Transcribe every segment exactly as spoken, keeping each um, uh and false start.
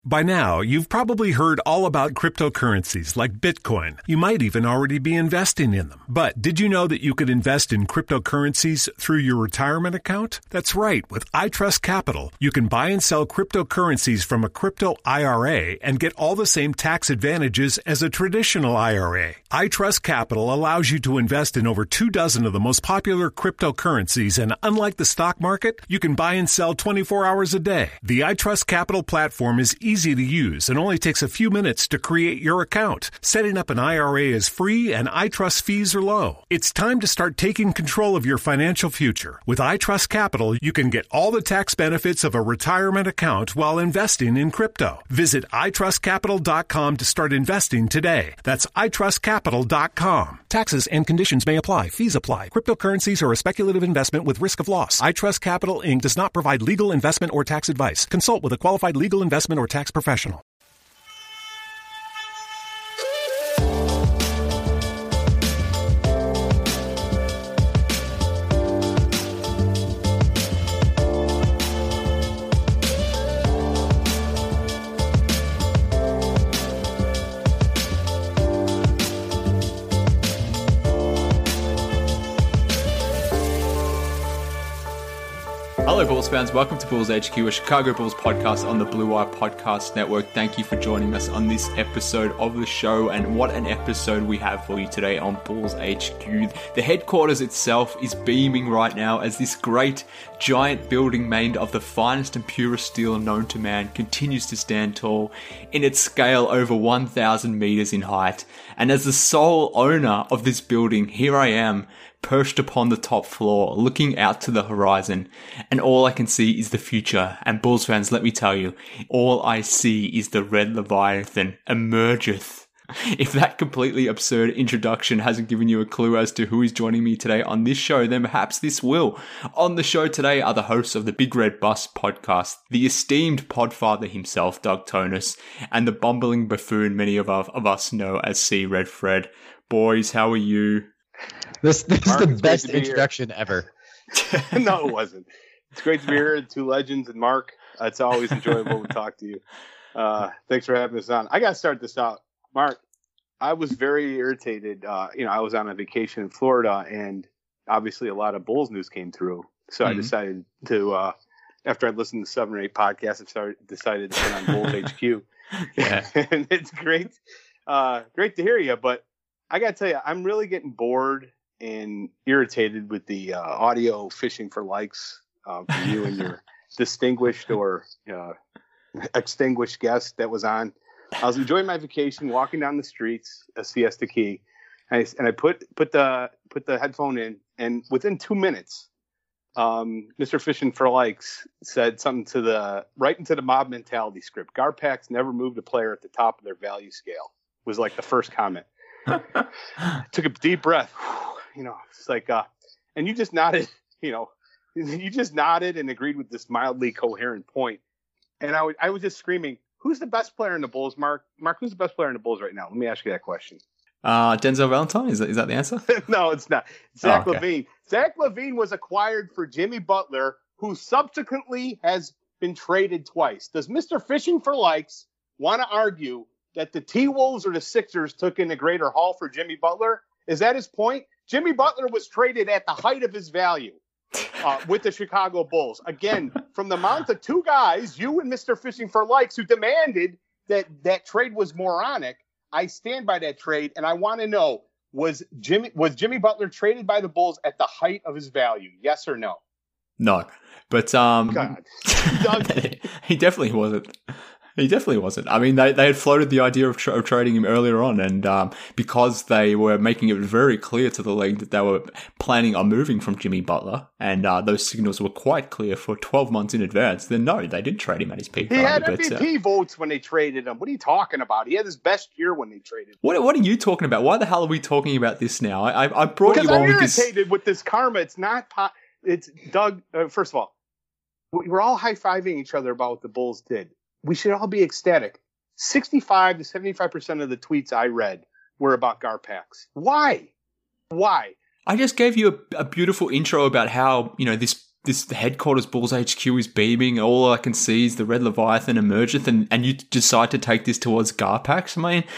By now, you've probably heard all about cryptocurrencies like Bitcoin. You might even already be investing in them. But did you know that you could invest in cryptocurrencies through your retirement account? That's right. With iTrust Capital, you can buy and sell cryptocurrencies from a crypto I R A and get all the same tax advantages as a traditional I R A. iTrust Capital allows you to invest in over two dozen of the most popular cryptocurrencies, and unlike the stock market, you can buy and sell twenty-four hours a day. The iTrust Capital platform is easy easy to use and only takes a few minutes to create your account. Setting up an I R A is free and iTrust fees are low. It's time to start taking control of your financial future. With iTrust Capital, you can get all the tax benefits of a retirement account while investing in crypto. Visit i trust capital dot com to start investing today. That's i trust capital dot com. Taxes and conditions may apply. Fees apply. Cryptocurrencies are a speculative investment with risk of loss. iTrust Capital, Incorporated does not provide legal investment or tax advice. Consult with a qualified legal investment or tax professional. Hello, Bulls fans. Welcome to Bulls H Q, a Chicago Bulls podcast on the Blue Wire Podcast Network. Thank you for joining us on this episode of the show, and what an episode we have for you today on Bulls H Q. The headquarters itself is beaming right now as this great, giant building made of the finest and purest steel known to man continues to stand tall in its scale over one thousand meters in height. And as the sole owner of this building, here I am, perched upon the top floor, looking out to the horizon, and all I can see is the future. And Bulls fans, let me tell you, all I see is the Red Leviathan emergeth. If that completely absurd introduction hasn't given you a clue as to who is joining me today on this show, then perhaps this will. On the show today are the hosts of the Big Red Bus podcast, the esteemed podfather himself, Doug Tonus, and the bumbling buffoon many of, our, of us know as C. Red Fred. Boys, how are you? This, this Mark, is the best be introduction here. ever. No, it wasn't. It's great to be here, two legends, and Mark. It's always enjoyable to talk to you. Uh, thanks for having us on. I got to start this out. Mark, I was very irritated. Uh, you know, I was on a vacation in Florida, and obviously a lot of Bulls news came through. So mm-hmm. I decided to, uh, after I listened to seven or eight podcasts, I started, decided to put on Bulls H Q. Yeah. And it's great. Uh, great to hear you, but I got to tell you, I'm really getting bored and irritated with the uh, audio fishing for likes uh, from you and your distinguished or uh, extinguished guest that was on. I was enjoying my vacation, walking down the streets of Siesta Key, and I, and I put put the put the headphone in, and within two minutes, um, Mister Fishing for Likes said something to the right into the mob mentality script. Garpax never moved a player at the top of their value scale. Was like the first comment. Took a deep breath. You know, it's like, uh, and you just nodded, you know, you just nodded and agreed with this mildly coherent point. And I, w- I was just screaming, who's the best player in the Bulls, Mark? Mark, who's the best player in the Bulls right now? Let me ask you that question. Uh, Denzel Valentine, is that, is that the answer? No, it's not. Zach oh, okay. LaVine. Zach LaVine was acquired for Jimmy Butler, who subsequently has been traded twice. Does Mister Fishing for Likes want to argue that the T-Wolves or the Sixers took in a greater haul for Jimmy Butler? Is that his point? Jimmy Butler was traded at the height of his value uh, with the Chicago Bulls. Again, from the mouth of two guys, you and Mister Fishing for Likes, who demanded that that trade was moronic. I stand by that trade, and I want to know, was Jimmy was Jimmy Butler traded by the Bulls at the height of his value? Yes or no? No. But um, God. he definitely wasn't. He definitely wasn't. I mean, they, they had floated the idea of, tra- of trading him earlier on, and um, because they were making it very clear to the league that they were planning on moving from Jimmy Butler, and uh, those signals were quite clear for twelve months in advance, then no, they didn't trade him at his peak. He value, had but, M V P uh, votes when they traded him. What are you talking about? He had his best year when they traded him. What, what are you talking about? Why the hell are we talking about this now? I, I, I brought because you I'm on with this. irritated with this karma. It's not po- – it's Doug uh, – first of all, we're all high-fiving each other about what the Bulls did. We should all be ecstatic. sixty-five to seventy-five percent of the tweets I read were about Garpax. Why? Why? I just gave you a, a beautiful intro about how, you know, this this headquarters Bulls H Q is beaming. All I can see is the Red Leviathan emergeth, and, and you decide to take this towards Garpax. I mean,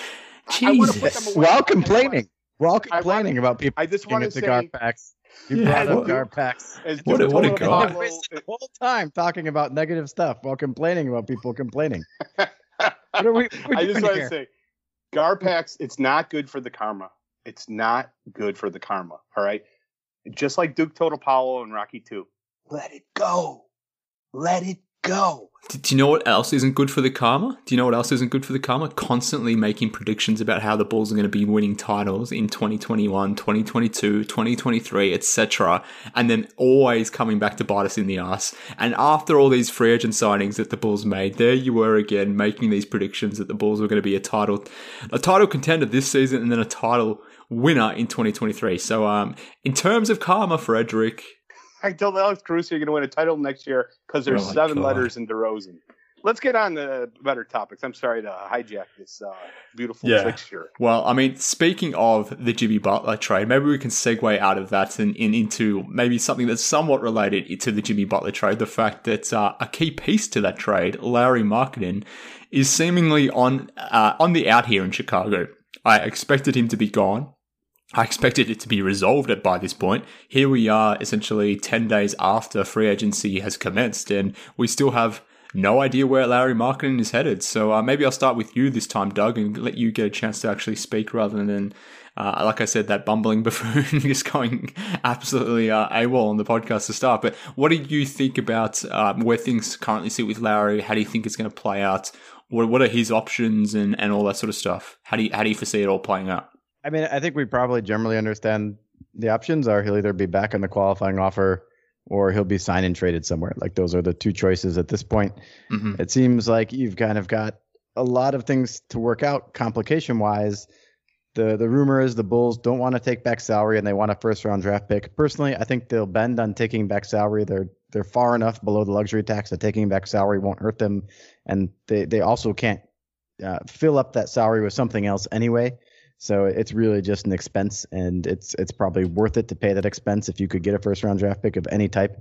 Jesus. While complaining. While complaining about people I just want to the say, Garpax. You Yeah, brought what- up Garpax. as What a- what a Duke guy. Totopalo- Wasted the whole time talking about negative stuff while complaining about people complaining. What are we, what are we I just doing want here? to say, Garpax, it's not good for the karma. It's not good for the karma. All right. Just like Duke Totopalo and Rocky two. Let it go. Let it go. Do do you know what else isn't good for the karma? Do you know what else isn't good for the karma? Constantly making predictions about how the Bulls are going to be winning titles in twenty twenty-one, twenty twenty-two, twenty twenty-three, et cetera, and then always coming back to bite us in the ass. And after all these free agent signings that the Bulls made, there you were again making these predictions that the Bulls were going to be a title, a title contender this season, and then a title winner in twenty twenty-three. So, um, in terms of karma, Frederick. I told Alex Caruso you're going to win a title next year because there's Oh my seven God. letters in DeRozan. Let's get on to better topics. I'm sorry to hijack this uh, beautiful Yeah. fixture. Well, I mean, speaking of the Jimmy Butler trade, maybe we can segue out of that and, and into maybe something that's somewhat related to the Jimmy Butler trade. The fact that uh, a key piece to that trade, Larry Marketing, is seemingly on uh, on the out here in Chicago. I expected him to be gone. I expected it to be resolved at by this point. Here we are, essentially ten days after free agency has commenced, and we still have no idea where Larry Marketing is headed. So uh, maybe I'll start with you this time, Doug, and let you get a chance to actually speak rather than, uh, like I said, that bumbling buffoon just going absolutely uh, AWOL on the podcast to start. But what do you think about um, where things currently sit with Larry? How do you think it's going to play out? What, what are his options and, and all that sort of stuff? How do you, how do you foresee it all playing out? I mean, I think we probably generally understand the options are he'll either be back on the qualifying offer or he'll be signed and traded somewhere. Like those are the two choices at this point. Mm-hmm. It seems like you've kind of got a lot of things to work out complication wise. The the rumor is the Bulls don't want to take back salary and they want a first round draft pick. Personally, I think they'll bend on taking back salary. They're they're far enough below the luxury tax that taking back salary won't hurt them. And they, they also can't uh, fill up that salary with something else anyway. So it's really just an expense, and it's it's probably worth it to pay that expense if you could get a first round draft pick of any type.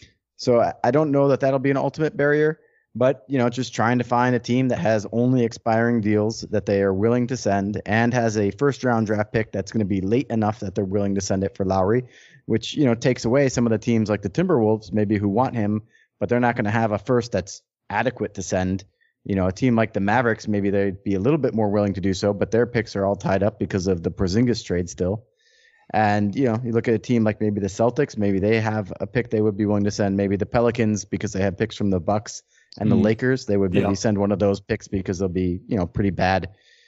So I, I don't know that that'll be an ultimate barrier, but you know, just trying to find a team that has only expiring deals that they are willing to send and has a first round draft pick that's going to be late enough that they're willing to send it for Lowry, which you know takes away some of the teams like the Timberwolves maybe who want him, but they're not going to have a first that's adequate to send. You know, a team like the Mavericks, maybe they'd be a little bit more willing to do so, but their picks are all tied up because of the Porzingis trade still. And, you know, you look at a team like maybe the Celtics, maybe they have a pick they would be willing to send. Maybe the Pelicans, because they have picks from the Bucks and the Mm. Lakers, they would maybe Yeah. send one of those picks because they'll be, you know, pretty bad.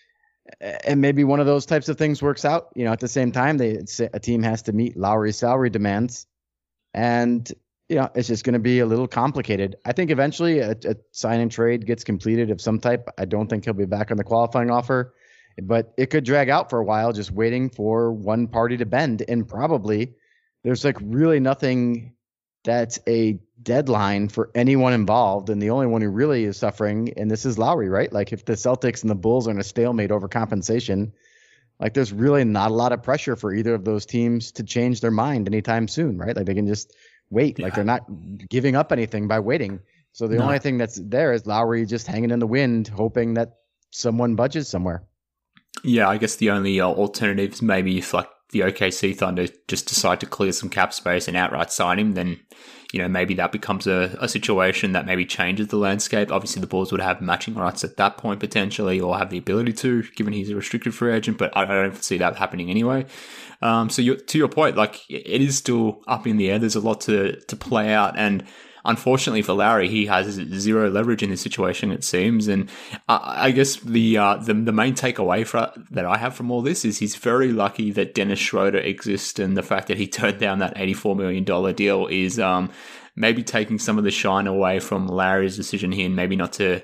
And maybe one of those types of things works out. You know, at the same time, they a team has to meet Lowry's salary demands. And you know, it's just going to be a little complicated. I think eventually a, a sign and trade gets completed of some type. I don't think he'll be back on the qualifying offer, but it could drag out for a while just waiting for one party to bend. And probably there's like really nothing that's a deadline for anyone involved. And the only one who really is suffering, and this is Lowry, right? Like if the Celtics and the Bulls are in a stalemate over compensation, like there's really not a lot of pressure for either of those teams to change their mind anytime soon, right? Like they can just wait. Yeah. Like they're not giving up anything by waiting. So the No. only thing that's there is Lowry just hanging in the wind, hoping that someone budges somewhere. Yeah, I guess the only uh, alternatives maybe if like the O K C Thunder just decide to clear some cap space and outright sign him, then you know maybe that becomes a, a situation that maybe changes the landscape. Obviously, the Bulls would have matching rights at that point potentially, or have the ability to, given he's a restricted free agent. But I, I don't see that happening anyway. Um, so you, to your point, like it is still up in the air. There's a lot to to play out, and unfortunately for Larry, he has zero leverage in this situation, it seems. And I, I guess the, uh, the the main takeaway for, that I have from all this is he's very lucky that Dennis Schroeder exists, and the fact that he turned down that eighty-four million dollars deal is um, maybe taking some of the shine away from Larry's decision here, and maybe not to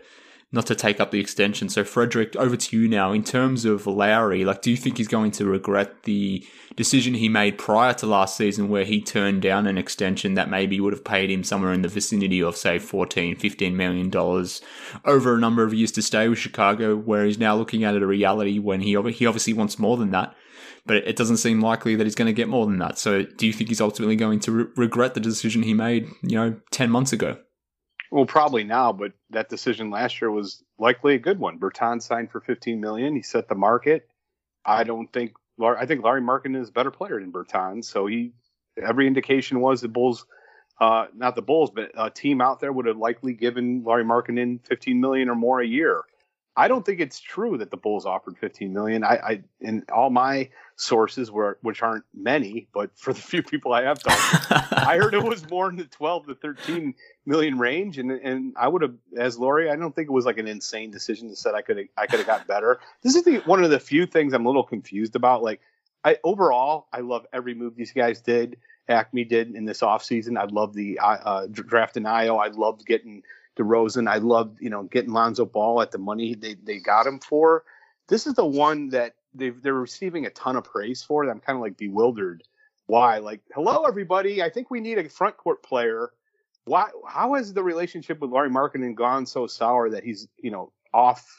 not to take up the extension. So Frederick, over to you now. In terms of Lowry, like, do you think he's going to regret the decision he made prior to last season where he turned down an extension that maybe would have paid him somewhere in the vicinity of, say, fourteen, fifteen million dollars over a number of years to stay with Chicago, where he's now looking at it a reality when he, he obviously wants more than that, but it doesn't seem likely that he's going to get more than that. So do you think he's ultimately going to re- regret the decision he made, you know, ten months ago? Well, probably now, but that decision last year was likely a good one. Bertans signed for fifteen million dollars. He set the market. I don't think I think Larry Markkinen is a better player than Bertans. So he, every indication was the Bulls, uh, not the Bulls, but a team out there would have likely given Larry Markkinen fifteen million dollars or more a year. I don't think it's true that the Bulls offered fifteen million dollars. I, I in all my sources, were, which aren't many, but for the few people I have talked to, I heard it was more in the twelve to thirteen million range. And and I would have, as Laurie, I don't think it was like an insane decision to say I could I could have got better. This is the, one of the few things I'm a little confused about. Like, I overall, I love every move these guys did. Acme did in this offseason. I love the uh, draft in Io. I loved getting DeRozan. I loved, you know, getting Lonzo Ball at the money they, they got him for. This is the one that they've, they're receiving a ton of praise for. I'm kind of like bewildered. Why? Like, hello, everybody. I think we need a front court player. Why? How has the relationship with Larry Markkinen gone so sour that he's, you know, off?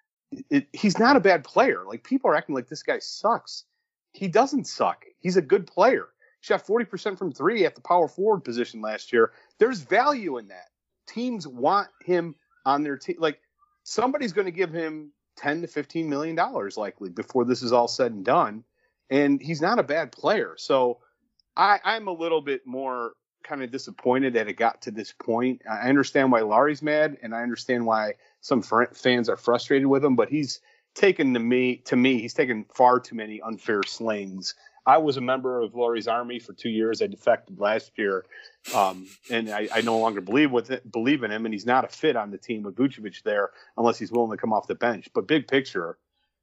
It, he's not a bad player. Like, people are acting like this guy sucks. He doesn't suck. He's a good player. He shot forty percent from three at the power forward position last year. There's value in that. Teams want him on their team. Like, somebody's going to give him ten to fifteen million dollars likely before this is all said and done. And he's not a bad player. So I, I'm a little bit more kind of disappointed that it got to this point. I understand why Larry's mad, and I understand why some fr- fans are frustrated with him, but he's taken to me, to me, he's taken far too many unfair slings. I was a member of Laurie's Army for two years. I defected last year, um, and I, I no longer believe with it, believe in him. And he's not a fit on the team with Vucevic there unless he's willing to come off the bench. But big picture,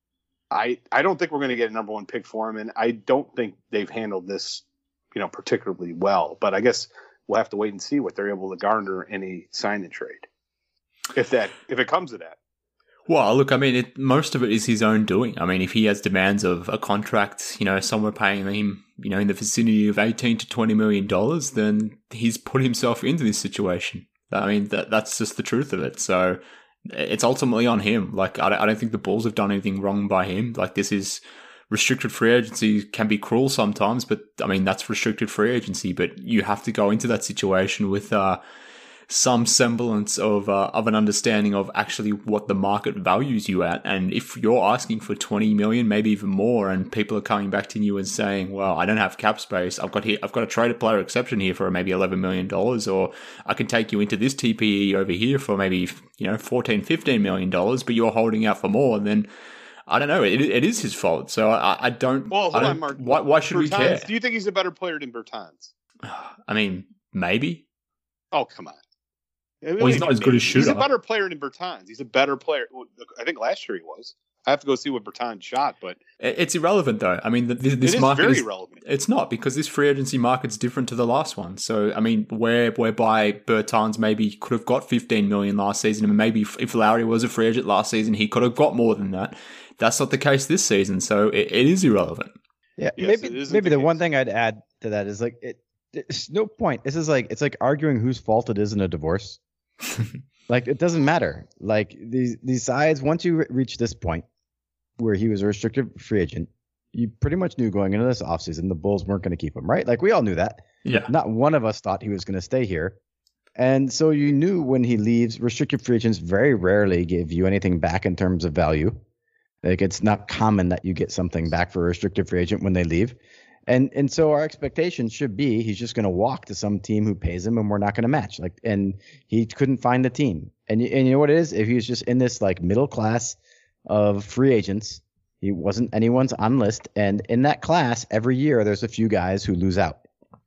I I don't think we're going to get a number one pick for him, and I don't think they've handled this, you know, particularly well. But I guess we'll have to wait and see what they're able to garner in a sign and trade, if that if it comes to that. Well, look, I mean, it, most of it is his own doing. I mean, if he has demands of a contract, you know, somewhere paying him, you know, in the vicinity of eighteen to twenty million dollars, then he's put himself into this situation. I mean, that that's just the truth of it. So it's ultimately on him. Like, I don't, I don't think the Bulls have done anything wrong by him. Like, this is restricted free agency, can be cruel sometimes, but I mean, that's restricted free agency. But you have to go into that situation with, uh, some semblance of uh, of an understanding of actually what the market values you at. And if you're asking for twenty million, maybe even more, and people are coming back to you and saying, well, I don't have cap space, I've got here, I've got a traded player exception here for maybe eleven million dollars, or I can take you into this T P E over here for maybe, you know, fourteen, fifteen million dollars, but you're holding out for more, then I don't know. It, it is his fault. So I, I don't. Well, hold I don't, on, Mark. Why, why should Bertans, we care? Do you think he's a better player than Bertans? I mean, maybe. Oh, come on. Well, he's not as good as shooter. He's a better player than Bertans. He's a better player. I think last year he was. I have to go see what Bertans shot, but it's irrelevant though. I mean, this, this it is market very is relevant. It's not, because this free agency market's different to the last one. So, I mean, where whereby Bertans maybe could have got fifteen million last season, and maybe if, if Lowry was a free agent last season, he could have got more than that. That's not the case this season, so it, it is irrelevant. Yeah, yes, maybe maybe the, the one thing I'd add to that is like it. There's no point. This is like it's like arguing whose fault it is in a divorce. Like, it doesn't matter. Like, these these sides, once you re- reach this point where he was a restricted free agent, you pretty much knew going into this offseason the Bulls weren't going to keep him, right? Like, we all knew that. Yeah. Not one of us thought he was going to stay here. And so you knew when he leaves, restricted free agents very rarely give you anything back in terms of value. Like, it's not common that you get something back for a restricted free agent when they leave. And and so our expectation should be he's just going to walk to some team who pays him, and we're not going to match. Like, and he couldn't find a team. And and you know what it is? If he was just in this like middle class of free agents, he wasn't anyone's on list. And in that class, every year there's a few guys who lose out.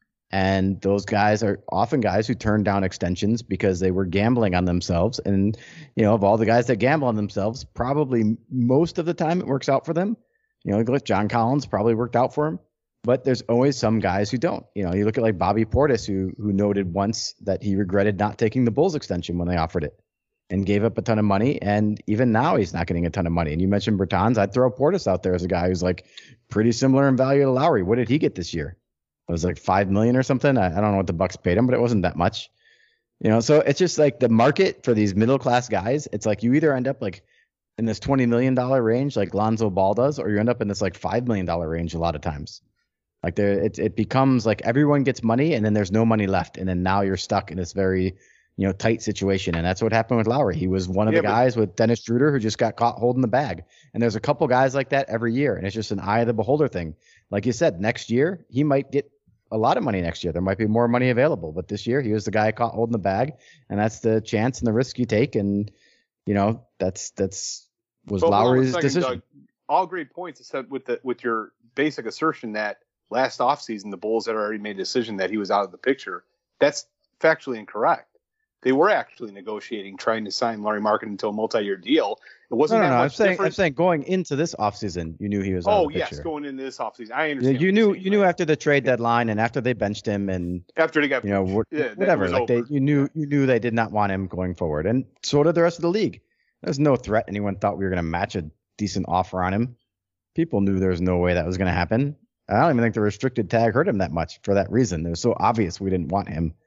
And those guys are often guys who turn down extensions because they were gambling on themselves. And, you know, of all the guys that gamble on themselves, probably most of the time it works out for them. You know, John Collins probably worked out for him. But there's always some guys who don't. You know, you look at like Bobby Portis, who who noted once that he regretted not taking the Bulls extension when they offered it. and gave up a ton of money. And even now he's not getting a ton of money. And you mentioned Bertans. I'd throw Portis out there as a guy who's like pretty similar in value to Lowry. What did he get this year? It was like five million or something. I, I don't know what the Bucks paid him, but it wasn't that much. You know, so it's just like the market for these middle class guys. It's like you either end up like in this twenty million dollars range like Lonzo Ball does, or you end up in this like five million dollars range a lot of times. Like there, it, it becomes like everyone gets money and then there's no money left. And then now you're stuck in this very, you know, tight situation. And that's what happened with Lowry. He was one of Yeah, the but- guys with Dennis Schroeder who just got caught holding the bag. And there's a couple guys like that every year. And it's just an eye of the beholder thing. Like you said, next year, he might get a lot of money next year. There might be more money available. But this year, he was the guy caught holding the bag. And that's the chance and the risk you take. And, you know, that's, that's, was But hold on a Lowry's second, decision. Doug. All great points, except with the with your basic assertion that last offseason the Bulls had already made a decision that he was out of the picture. That's factually incorrect. They were actually negotiating, trying to sign Larry Markkinen into a multi-year deal. It No, wasn't no, that no. I'm much saying, I'm different. saying going into this offseason, you knew he was out Oh of the yes, picture. going into this offseason, I Yeah, understand. you what knew, you're saying, you knew but after the trade deadline and after they benched him and after they got you know, wh- yeah, that whatever. was Like they, over. you knew, you knew they did not want him going forward, and so did the rest of the league. There's no threat anyone thought we were going to match a decent offer on him. People knew there was no way that was going to happen. I don't even think the restricted tag hurt him that much for that reason. It was so obvious we didn't want him.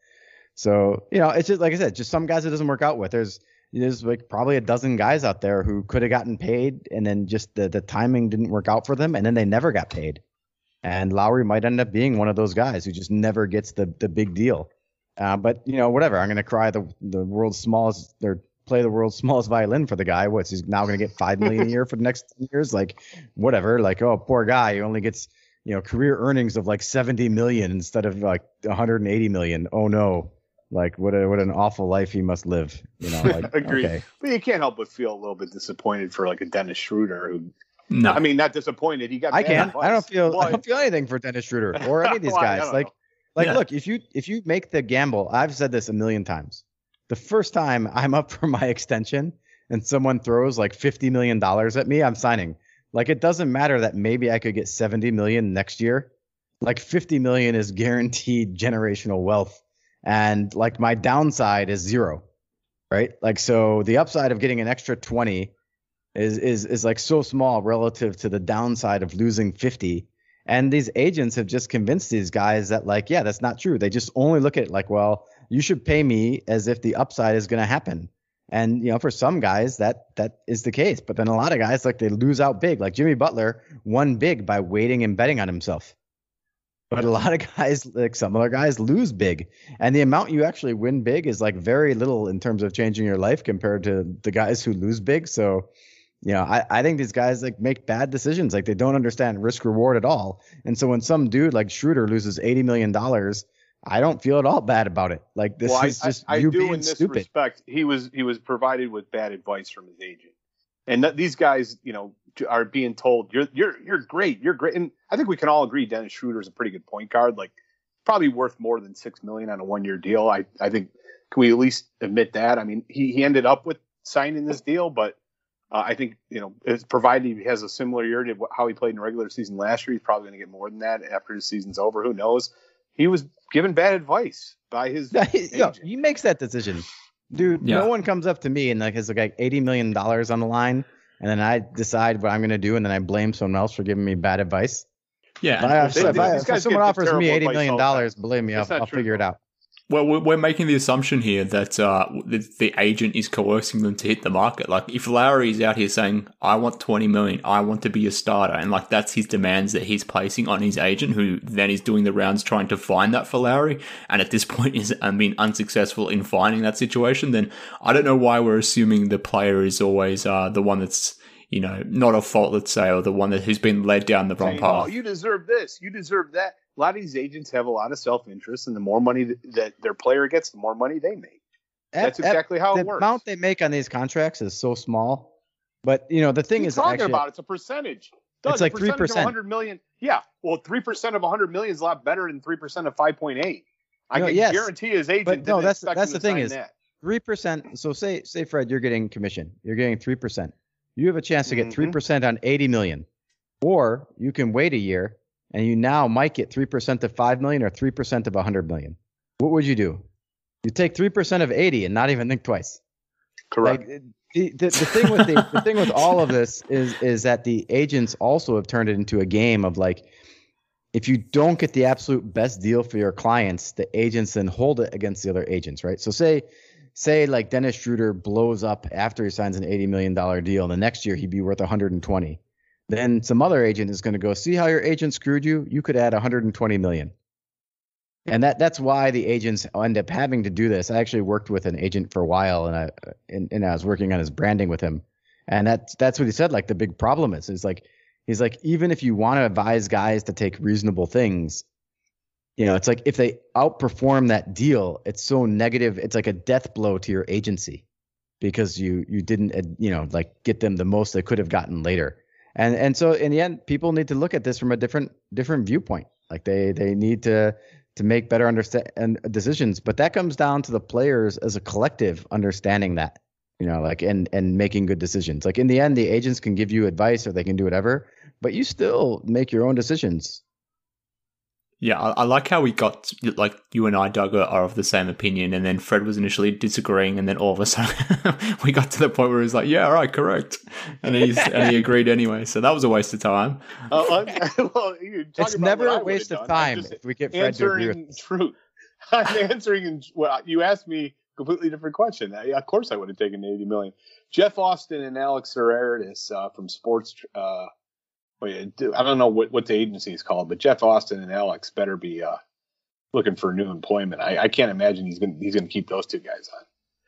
So you know, it's just like I said, just some guys it doesn't work out with. There's there's like probably a dozen guys out there who could have gotten paid, and then just the the timing didn't work out for them, and then they never got paid. And Lowry might end up being one of those guys who just never gets the the big deal. Uh, but you know, whatever. I'm gonna cry the the world's smallest or play the world's smallest violin for the guy. What's he's now gonna get five million a year for the next ten years? Like whatever. Like oh, poor guy. He only gets you know career earnings of like seventy million instead of like one hundred eighty million. Oh no. Like what a what an awful life he must live. You know. Like Agreed. okay. But you can't help but feel a little bit disappointed for like a Dennis Schroeder who. No, I mean, not disappointed. He got. I bad can't. advice. I don't feel. I But- don't feel anything for Dennis Schroeder or any of these Well, I guys. don't Like, know. like, Yeah. look, if you if you make the gamble, I've said this a million times. The first time I'm up for my extension and someone throws like fifty million dollars at me, I'm signing. Like, it doesn't matter that maybe I could get seventy million next year. Like, fifty million is guaranteed generational wealth, and like my downside is zero, right? Like, so the upside of getting an extra twenty is is is like so small relative to the downside of losing fifty. And these agents have just convinced these guys that like, yeah, that's not true. They just only look at it like, well, you should pay me as if the upside is going to happen. And you know, for some guys that that is the case, but then a lot of guys like they lose out big. Like Jimmy Butler won big by waiting and betting on himself. But a lot of guys, like some other guys, lose big. And the amount you actually win big is like very little in terms of changing your life compared to the guys who lose big. So, you know, I, I think these guys like make bad decisions. Like they don't understand risk reward at all. And so when some dude like Schroeder loses eighty million dollars, I don't feel at all bad about it. Like this well, is I, just I, I you do being in this stupid. respect. He was he was provided with bad advice from his agent, and th- these guys, you know, are being told you're you're you're great, you're great. And I think we can all agree Dennis Schroeder is a pretty good point guard. Like probably worth more than six million on a one year deal. I I think can we at least admit that? I mean, he he ended up with signing this deal, but. Uh, I think, you know, it's provided he has a similar year to how he played in the regular season last year. He's probably going to get more than that after his season's over. Who knows? He was given bad advice by his Yo, agent. he makes that decision. Dude, Yeah. no one comes up to me and like has like eighty million dollars on the line. And then I decide what I'm going to do. And then I blame someone else for giving me bad advice. yeah. If, I, They- if, I, these if guys someone get offers terrible me eighty advice million all the time. dollars, believe me, I'll, That's not I'll true, figure it though. out. Well, we're we're making the assumption here that uh, the, the agent is coercing them to hit the market. Like, if Lowry is out here saying, "I want twenty million, I want to be a starter," and like that's his demands that he's placing on his agent, who then is doing the rounds trying to find that for Lowry, and at this point is I mean unsuccessful in finding that situation, then I don't know why we're assuming the player is always uh, the one that's you know not at fault, let's say, or the one that who's been led down the wrong Saying, oh, path. you deserve this, you deserve that. A lot of these agents have a lot of self-interest, and the more money that, that their player gets, the more money they make. That's At- at- exactly how it the works. amount they make on these contracts is so small. But, you know, the thing What are you is talking actually, about? It's a percentage. Doug, It's like a percentage three percent. of one hundred million. Yeah, well, three percent of one hundred million is a lot better than three percent of five point eight. I No, can yes. guarantee his agent. But no, didn't that's- expect that's him the to thing sign is- that. three percent. So say, say, Fred, you're getting commission. You're getting three percent. You have a chance to get Mhm. three percent on eighty million. Or you can wait a year and you now might get three percent of five million or three percent of one hundred million. What would you do? You take three percent of eighty and not even think twice. Correct. Like, the, the, the thing with the, the thing with all of this is is that the agents also have turned it into a game of like, if you don't get the absolute best deal for your clients, the agents then hold it against the other agents, right? So say say like Dennis Schroeder blows up after he signs an eighty million dollars deal, and the next year he'd be worth one hundred twenty. Then some other agent is going to go, see how your agent screwed you? You could add one hundred twenty million. And that that's why the agents end up having to do this. I actually worked with an agent for a while, and I and, and I was working on his branding with him. And that's that's what he said. Like the big problem is, is like he's like, even if you want to advise guys to take reasonable things, you know, it's like if they outperform that deal, it's so negative. It's like a death blow to your agency because you you didn't, you know, like get them the most they could have gotten later. And and so in the end, people need to look at this from a different different viewpoint. Like they they need to to make better understand decisions. But that comes down to the players as a collective understanding that, you know, like and and making good decisions. Like in the end, the agents can give you advice or they can do whatever, but you still make your own decisions. Yeah, I, I like how we got, like, you and I, Doug, are, are of the same opinion, and then Fred was initially disagreeing, and then all of a sudden we got to the point where he's like, yeah, all right, correct. And, he's, and he agreed anyway, so that was a waste of time. Uh, well, it's never a waste of time if we get Fred to agree with us. Truth. I'm answering, in, well, you asked me a completely different question. I, of course I would have taken eighty million. Jeff Austin and Alex Serraris uh, from Sports... Uh, I don't know what, what the agency is called, but Jeff Austin and Alex better be uh, looking for new employment. I, I can't imagine he's going he's going to keep those two guys on.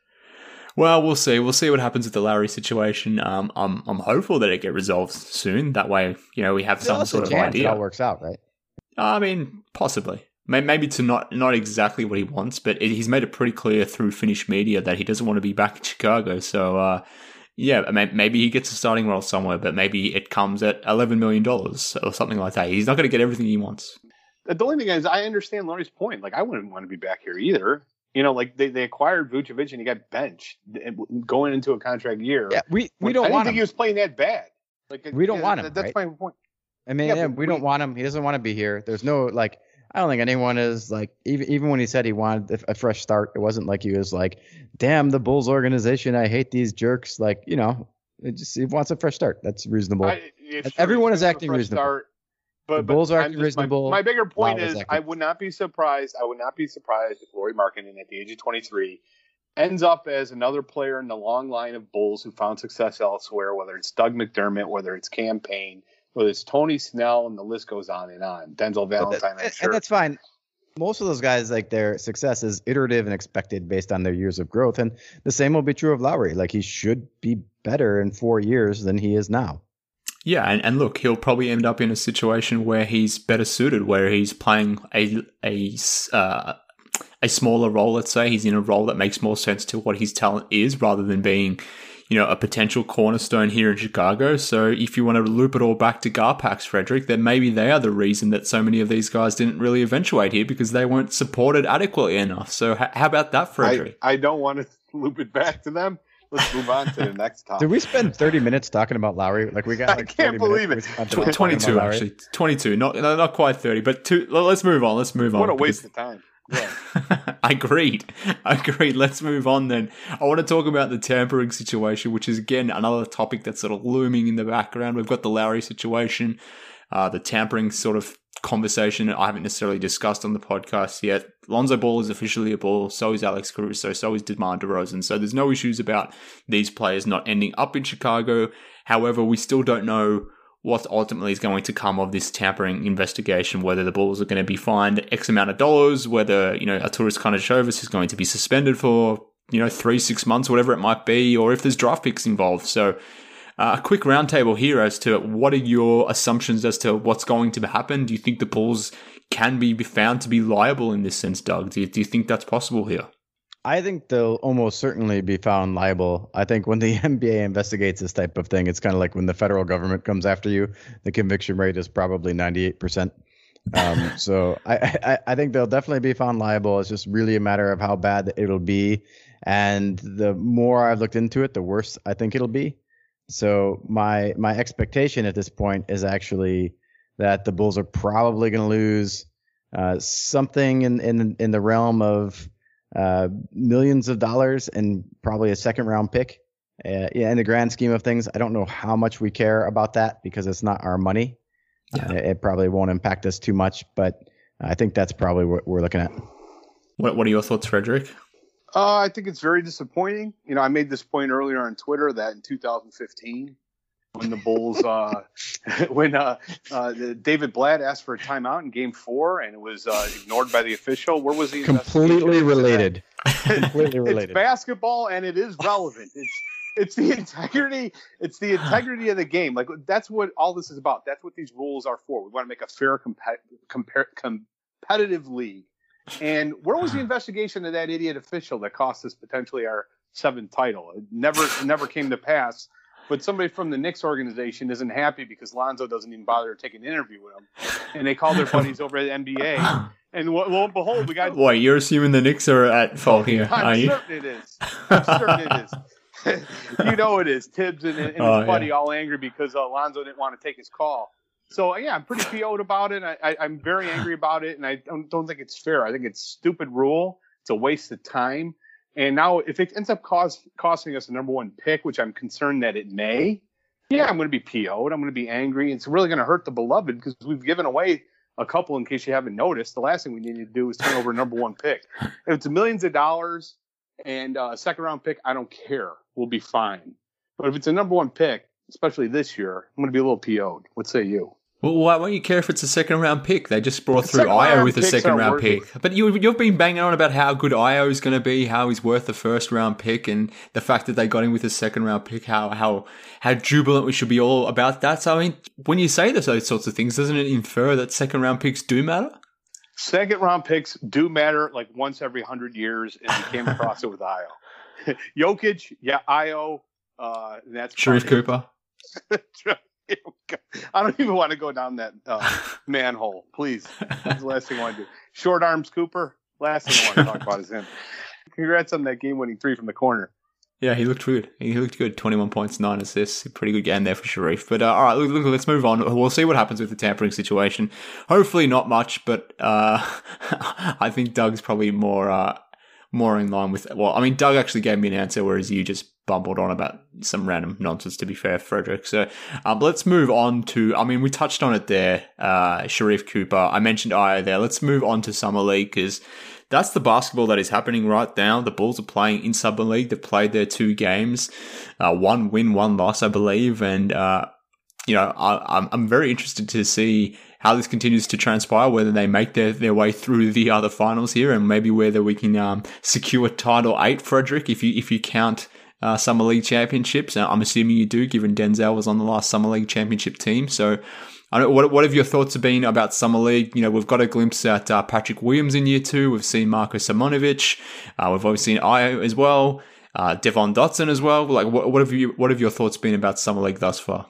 Well, we'll see. We'll see what happens with the Lowry situation. Um, I'm I'm hopeful that it get resolved soon. That way, you know, we have some sort of idea. It all works out, right? I mean, possibly. Maybe to not not exactly what he wants, but it, he's made it pretty clear through Finnish media that he doesn't want to be back in Chicago. So. Uh, Yeah, maybe he gets a starting role somewhere, but maybe it comes at eleven million dollars or something like that. He's not going to get everything he wants. The only thing is, I understand Laurie's point. Like, I wouldn't want to be back here either. You know, like, they, they acquired Vucevic and he got benched going into a contract year. Yeah, we, we don't I want didn't think him. he was playing that bad. Like, we don't yeah, want him, That's right? my point. I mean, yeah, yeah, we, we don't want him. He doesn't want to be here. There's no, like... I don't think anyone is like, even even when he said he wanted a fresh start, it wasn't like he was like, damn, the Bulls organization, I hate these jerks. Like, you know, it just he wants a fresh start. That's reasonable. I, Everyone is acting reasonable. Start, but, the but Bulls are I'm acting just, reasonable. My, my bigger point Wow, is, acting. I would not be surprised. I would not be surprised if Lauri Markkanen, at the age of twenty-three, ends up as another player in the long line of Bulls who found success elsewhere, whether it's Doug McDermott, whether it's Cam Payne, whether it's Tony Snell, and the list goes on and on. Denzel Valentine, that, I'm sure. And that's fine. Most of those guys, like their success is iterative and expected based on their years of growth. And the same will be true of Lowry. Like he should be better in four years than he is now. Yeah, and, and look, he'll probably end up in a situation where he's better suited, where he's playing a a uh, a smaller role. Let's say he's in a role that makes more sense to what his talent is, rather than being, you know, a potential cornerstone here in Chicago. So if you want to loop it all back to Garpax, Frederick, then maybe they are the reason that so many of these guys didn't really eventuate here, because they weren't supported adequately enough. So h- how about that, Frederick? I, I don't want to loop it back to them. Let's move on to the next topic. Did we spend thirty minutes talking about Lowry? Like we got like I can't believe it. Tw- twenty-two, actually. twenty-two. Not, not quite thirty, but two. Let's move on. Let's move on. What a waste of time. Yeah. Agreed. Agreed. Let's move on then. I want to talk about the tampering situation, which is, again, another topic that's sort of looming in the background. We've got the Lowry situation, uh, the tampering sort of conversation I haven't necessarily discussed on the podcast yet. Lonzo Ball is officially a Bull. So is Alex Caruso. So is DeMar DeRozan. So there's no issues about these players not ending up in Chicago. However, we still don't know what ultimately is going to come of this tampering investigation, whether the Bulls are going to be fined X amount of dollars, whether, you know, Arturas Karnisovas is going to be suspended for, you know, three, six months, whatever it might be, or if there's draft picks involved. So uh, a quick roundtable here as to what are your assumptions as to what's going to happen. Do you think the Bulls can be found to be liable in this sense, Doug? Do you, do you think that's possible here? I think they'll almost certainly be found liable. I think when the N B A investigates this type of thing, it's kind of like when the federal government comes after you, the conviction rate is probably ninety-eight percent. Um, so I, I, I think they'll definitely be found liable. It's just really a matter of how bad it'll be. And the more I've looked into it, the worse I think it'll be. So my my expectation at this point is actually that the Bulls are probably going to lose uh, something in, in in the realm of uh, millions of dollars and probably a second round pick. Uh, yeah, in the grand scheme of things, I don't know how much we care about that because it's not our money. Yeah. Uh, it probably won't impact us too much, but I think that's probably what we're looking at. What What are your thoughts, Frederick? Uh, I think it's very disappointing. You know, I made this point earlier on Twitter that in two thousand fifteen, when the Bulls, uh, when uh, uh, David Blatt asked for a timeout in Game Four and it was uh, ignored by the official, where was he? Completely related. Completely related. It's basketball and it is relevant. It's it's the integrity. It's the integrity of the game. Like that's what all this is about. That's what these rules are for. We want to make a fair, comp- compar- competitive league. And where was the investigation of that idiot official that cost us potentially our seventh title? It never, it never came to pass. But somebody from the Knicks organization isn't happy because Lonzo doesn't even bother to take an interview with him. And they call their buddies over at the N B A. And lo, lo and behold, we got. Why, you're assuming the Knicks are at fault here, I'm are you? certain it is. I'm certain it is. You know it is. Tibbs and, and oh, his buddy yeah. all angry because uh, Lonzo didn't want to take his call. So, yeah, I'm pretty P O'd about it. I, I, I'm very angry about it, and I don't, don't think it's fair. I think it's a stupid rule. It's a waste of time. And now if it ends up cost, costing us the number one pick, which I'm concerned that it may, yeah, I'm going to be P O'd. I'm going to be angry. It's really going to hurt the beloved because we've given away a couple in case you haven't noticed. The last thing we need to do is turn over a number one pick. If it's millions of dollars and uh, a second-round pick, I don't care. We'll be fine. But if it's a number one pick, especially this year, I'm going to be a little P O'd. What say you? Well, why won't you care if it's a second round pick? They just brought through Io with a second round pick. But you, you've been banging on about how good Io is going to be, how he's worth the first round pick, and the fact that they got him with a second round pick, how how how jubilant we should be all about that. So, I mean, when you say those sorts of things, doesn't it infer that second round picks do matter? Second round picks do matter like once every hundred years, and we came across it with Io. Jokic, yeah, Io, uh, that's Sharif Cooper. I don't even want to go down that uh, manhole. Please. That's the last thing I want to do. Short arms Cooper. Last thing I want to talk about is him. Congrats on that game-winning three from the corner. Yeah, he looked good. He looked good. twenty-one points, nine assists. Pretty good game there for Sharif. But uh, all right, look, look, let's move on. We'll see what happens with the tampering situation. Hopefully not much, but uh, I think Doug's probably more uh, more in line with... Well, I mean, Doug actually gave me an answer, whereas you just bumbled on about some random nonsense, to be fair, Frederick. So um, let's move on to... I mean, we touched on it there, uh, Sharif Cooper. I mentioned Io there. Let's move on to Summer League, because that's the basketball that is happening right now. The Bulls are playing in Summer League. They've played their two games. Uh, one win, one loss, I believe. And, uh, you know, I, I'm, I'm very interested to see how this continues to transpire, whether they make their, their way through the other finals here, and maybe whether we can um, secure title eight, Frederick, if you if you count uh, Summer League championships. I'm assuming you do, given Denzel was on the last Summer League championship team. So, I don't, what what have your thoughts been about Summer League? You know, we've got a glimpse at uh, Patrick Williams in year two. We've seen Marko Simonovic. Uh, we've obviously seen Io as well. Uh, Devon Dotson as well. Like, what, what have you what have your thoughts been about Summer League thus far?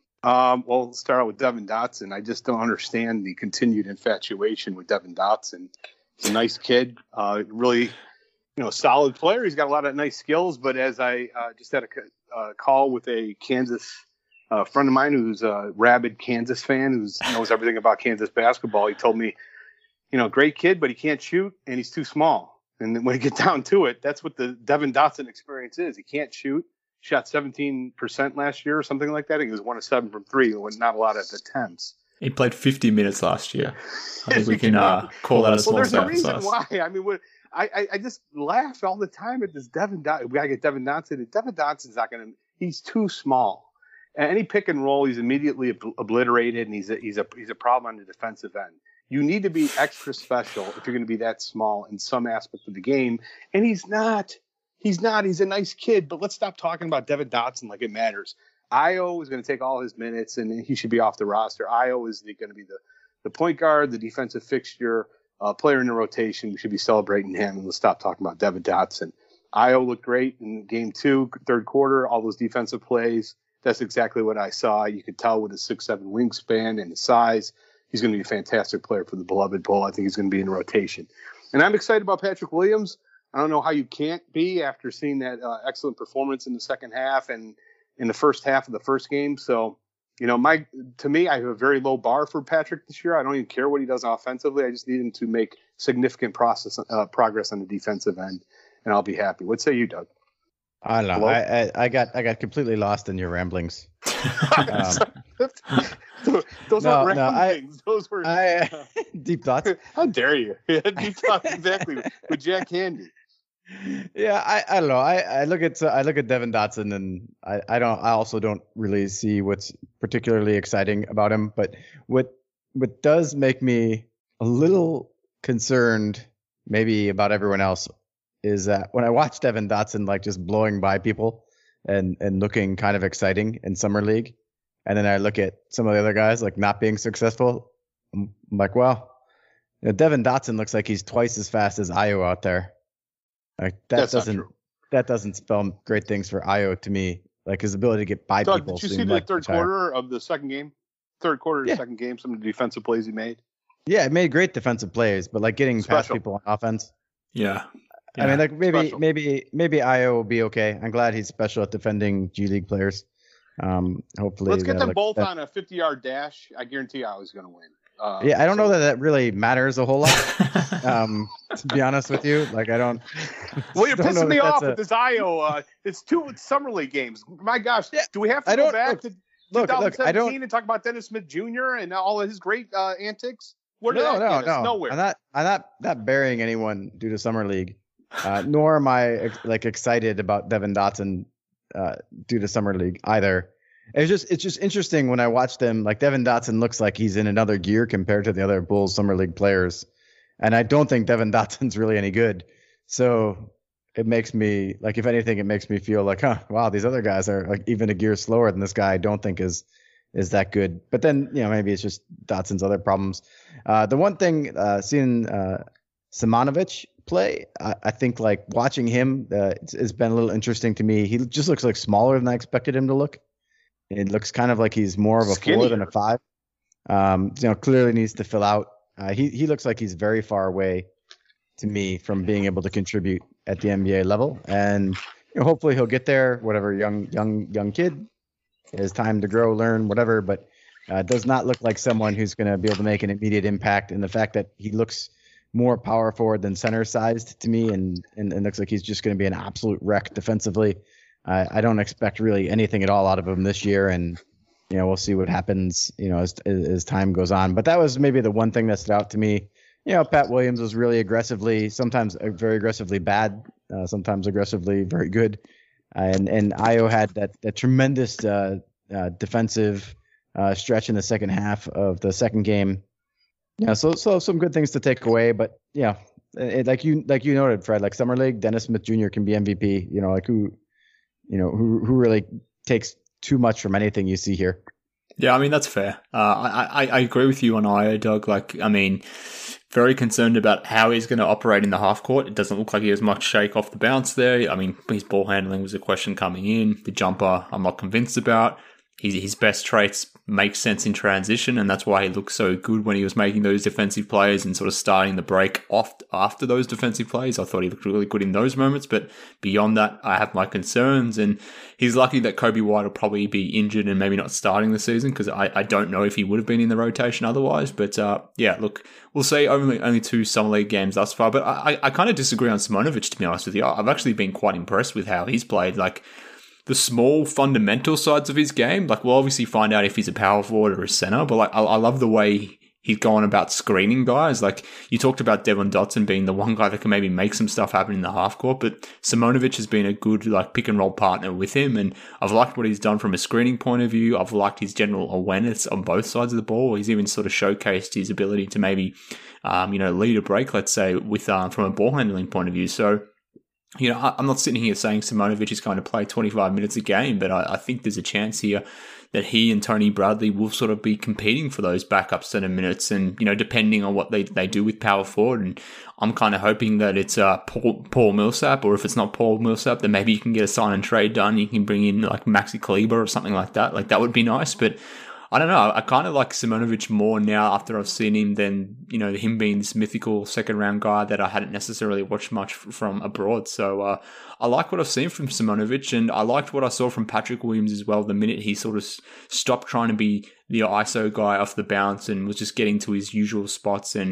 Um, well, let's start out with Devon Dotson. I just don't understand the continued infatuation with Devon Dotson. He's a nice kid, uh, really, you know, solid player. He's got a lot of nice skills. But as I uh, just had a uh, call with a Kansas uh, friend of mine who's a rabid Kansas fan, who knows everything about Kansas basketball, he told me, you know, great kid, but he can't shoot and he's too small. And then when you get down to it, that's what the Devon Dotson experience is. He can't shoot. Shot seventeen percent last year or something like that. I think he was one of seven from three, with not a lot of attempts. He played fifty minutes last year. I think we can uh, call that a small well, there's sample a reason size. why. I mean, what, I, I I just laugh all the time at this Devon Dotson. We gotta get Devon Dotson. Devon Dotson's not gonna. He's too small. And any pick and roll, he's immediately ob- obliterated, and he's a, he's a he's a problem on the defensive end. You need to be extra special if you're going to be that small in some aspect of the game, and he's not. He's not. He's a nice kid, but let's stop talking about Devon Dotson like it matters. Io is going to take all his minutes, and he should be off the roster. Io is going to be the, the point guard, the defensive fixture, uh, player in the rotation. We should be celebrating him, and let's stop talking about Devon Dotson. Io looked great in game two, third quarter, all those defensive plays. That's exactly what I saw. You could tell with his six seven wingspan and his size, he's going to be a fantastic player for the beloved Bull. I think he's going to be in the rotation. And I'm excited about Patrick Williams. I don't know how you can't be after seeing that uh, excellent performance in the second half and in the first half of the first game. So, you know, my to me, I have a very low bar for Patrick this year. I don't even care what he does offensively. I just need him to make significant process uh, progress on the defensive end, and I'll be happy. What say you, Doug? I don't know. I, I I got I got completely lost in your ramblings. um, Those no, aren't no, ramblings. I, Those were I, deep thoughts. How dare you? Deep thoughts, exactly. With Jack Handy. Yeah, I, I don't know. I, I look at I look at Devin Dotson, and I, I don't I also don't really see what's particularly exciting about him. But what what does make me a little concerned, maybe about everyone else, is that when I watch Devin Dotson like just blowing by people and and looking kind of exciting in summer league, and then I look at some of the other guys like not being successful, I'm, I'm like, well, you know, Devin Dotson looks like he's twice as fast as Ayo out there. Like that That's doesn't that doesn't spell great things for Ayo to me. Like his ability to get by Doug, people. did you see the like third quarter of the second game? Third quarter of the Yeah. second game, some of the defensive plays he made. Yeah, it made great defensive plays, but like getting past Special. people on offense. Yeah. I mean, like maybe Special. maybe maybe Ayo will be okay. I'm glad he's special at defending G League players. Um, hopefully, Let's get that- them like, both that- on a fifty-yard dash. I guarantee you I was going to win. Uh, Yeah, I don't so- know that that really matters a whole lot. um, to be honest with you, like I don't. Well, you're don't know pissing me that that's off a- with this Ayo. Uh, it's two summer league games. My gosh, Yeah, do we have to I go don't- back look, to Look, look, I twenty seventeen don't. and talk about Dennis Smith Junior and all of his great uh, antics? Where did No, that no, get us? no. Nowhere. I'm not. I'm not. Not burying anyone due to summer league. Uh, nor am I ex- like excited about Devin Dotson uh, due to summer league either. It's just it's just interesting when I watch them. Like Devin Dotson looks like he's in another gear compared to the other Bulls summer league players, and I don't think Devin Dotson's really any good. So it makes me like, if anything, it makes me feel like, huh, wow, these other guys are like even a gear slower than this guy. I don't think is is that good. But then you know maybe it's just Dotson's other problems. Uh, the one thing uh, seeing uh, Simonovic play, I, I think like watching him uh, it's, it's been a little interesting to me. He just looks like smaller than I expected him to look. It looks kind of like he's more of a four than a Skinnier. five. Um, you know, clearly needs to fill out. Uh, he he looks like he's very far away to me from being able to contribute at the N B A level, and you know, hopefully he'll get there. Whatever, young young young kid, his time to grow, learn, whatever. But uh, does not look like someone who's going to be able to make an immediate impact. And the fact that he looks more power forward than center sized to me, and and, and looks like he's just going to be an absolute wreck defensively. I, I don't expect really anything at all out of him this year, and you know we'll see what happens, you know, as as time goes on. But that was maybe the one thing that stood out to me. You know, Pat Williams was really aggressively, sometimes uh, very aggressively bad, uh, sometimes aggressively very good, uh, and and Ayo had that that tremendous uh, uh, defensive uh, stretch in the second half of the second game. Yeah, so so some good things to take away, but yeah, it, like you like you noted, Fred, like summer league, Dennis Smith Junior can be M V P. You know, like who. You know, who who really takes too much from anything you see here. Yeah, I mean, that's fair. Uh, I, I, I agree with you on Ayo, Doug. Like, I mean, very concerned about how he's going to operate in the half court. It doesn't look like he has much shake off the bounce there. I mean, his ball handling was a question coming in. The jumper, I'm not convinced about. His, his best traits make sense in transition, and that's why he looked so good when he was making those defensive plays and sort of starting the break off after those defensive plays. I thought he looked really good in those moments, but beyond that, I have my concerns, and he's lucky that Kobe White will probably be injured and maybe not starting the season, because I, I don't know if he would have been in the rotation otherwise. But uh, yeah, look, we'll see. Only only two summer league games thus far, but I, I kind of disagree on Simonovic, to be honest with you. I've actually been quite impressed with how he's played. Like, the small fundamental sides of his game, like we'll obviously find out if he's a power forward or a center, but like I, I love the way he's going about screening guys. Like you talked about Devin Dotson being the one guy that can maybe make some stuff happen in the half court, but Simonovic has been a good like pick and roll partner with him, and I've liked what he's done from a screening point of view. I've liked his general awareness on both sides of the ball. He's even sort of showcased his ability to maybe, um, you know, lead a break, let's say, with um, from a ball handling point of view. So, you know, I'm not sitting here saying Simonovic is going to play twenty-five minutes a game, but I, I think there's a chance here that he and Tony Bradley will sort of be competing for those backup center minutes, and, you know, depending on what they, they do with power forward. And I'm kind of hoping that it's uh, Paul, Paul Millsap, or if it's not Paul Millsap, then maybe you can get a sign and trade done. You can bring in like Maxi Kleber or something like that. Like that would be nice, but I don't know. I kind of like Simonovic more now after I've seen him than, you know, him being this mythical second round guy that I hadn't necessarily watched much from abroad. So uh, I like what I've seen from Simonovic, and I liked what I saw from Patrick Williams as well. The minute he sort of stopped trying to be the I S O guy off the bounce and was just getting to his usual spots and,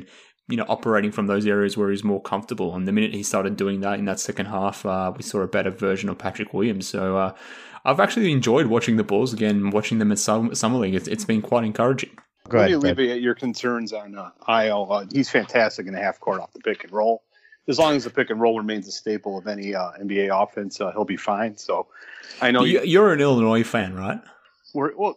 you know, operating from those areas where he's more comfortable. And the minute he started doing that in that second half, uh, we saw a better version of Patrick Williams. So uh, I've actually enjoyed watching the Bulls again, watching them at Summer League. It's, it's been quite encouraging. Go Let ahead, me alleviate your concerns on uh, I L. Uh, he's fantastic in the half court off the pick and roll. As long as the pick and roll remains a staple of any uh, N B A offense, uh, he'll be fine. So I know you, you're an Illinois fan, right? We're, well,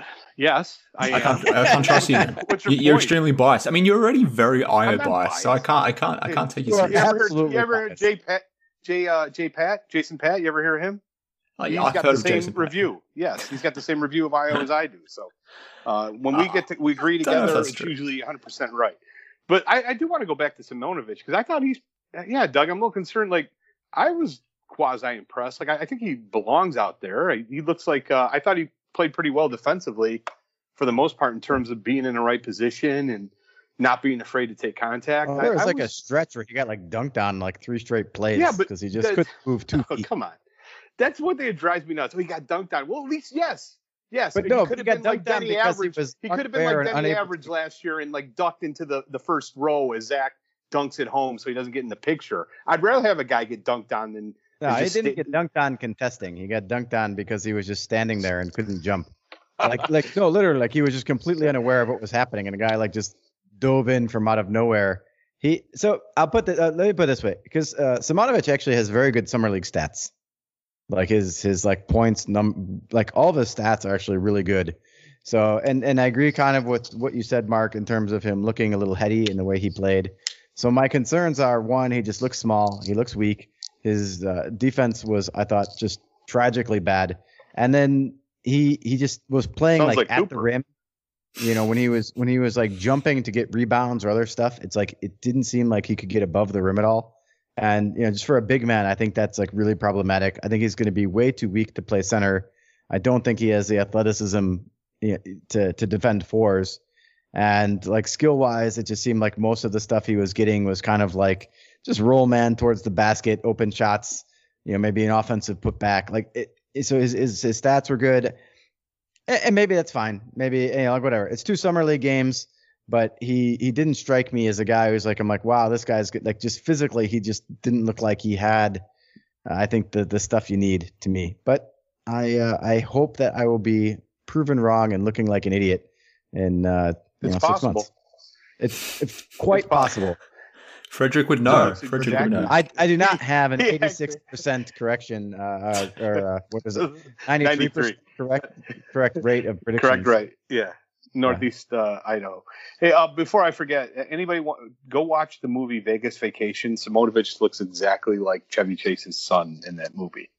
yes, I, I can't. I can't trust you. you you're point? extremely biased. I mean, you're already very I O biased, biased, so I can't. I can't. I can't take you seriously. You ever heard, you ever heard Jay Pat? Jay uh, Jay Pat? Jason Pat? You ever hear him? Oh, yeah, he's I've got the same review. Pat. Yes, he's got the same review of I O as I do. So uh, when we get to we agree together, it's true. Usually one hundred percent right. But I, I do want to go back to Simonovic because I thought he's yeah, Doug. I'm a little concerned. Like I was quasi impressed. Like I, I think he belongs out there. He looks like uh, I thought he played pretty well defensively for the most part in terms of being in the right position and not being afraid to take contact. Oh, there was I, I like was, a stretch where he got like dunked on like three straight plays yeah, because he just couldn't move two oh, feet. Come on. That's what they drives me nuts. So he got dunked on. Well, at least, yes. Yes. But he no, could he have got been dunked like on Denny because Average. he was He could have been like Denny Average to... last year and like ducked into the, the first row as Zach dunks at home so he doesn't get in the picture. I'd rather have a guy get dunked on than. No, he didn't stay... get dunked on contesting. He got dunked on because he was just standing there and couldn't jump. Like, like no, literally, like he was just completely unaware of what was happening, and a guy like just dove in from out of nowhere. He so I'll put the uh, let me put it this way because uh, Simonovic actually has very good summer league stats. Like his his like points num like all of his stats are actually really good. So and and I agree kind of with what you said, Mark, in terms of him looking a little heady in the way he played. So my concerns are one, he just looks small, he looks weak. His uh, defense was, I thought, just tragically bad. And then he he just was playing like, like at Cooper. the rim. You know, when he was when he was like jumping to get rebounds or other stuff, it's like it didn't seem like he could get above the rim at all. And, you know, just for a big man, I think that's like really problematic. I think he's going to be way too weak to play center. I don't think he has the athleticism you know, to to defend fours. And like skill wise, it just seemed like most of the stuff he was getting was kind of like just roll man towards the basket, open shots, you know, maybe an offensive putback. Like it, so his, his his stats were good. And, and maybe that's fine. Maybe, you know, like whatever. It's two summer league games. But he, he didn't strike me as a guy who's like, I'm like, wow, this guy's good. Like just physically, he just didn't look like he had, uh, I think, the the stuff you need to me. But I uh, I hope that I will be proven wrong and looking like an idiot in uh, you it's know, possible. six months. It's, it's quite it's possible. Frederick would know. No, Frederick exactly. would know. I, I do not have an Yeah. eighty-six percent correction uh, uh, or uh, what is it? ninety-three percent correct correct rate of predictions. Correct, right. Yeah. Northeast uh, Idaho. Hey, uh, before I forget, anybody want, go watch the movie Vegas Vacation. Simonovic looks exactly like Chevy Chase's son in that movie.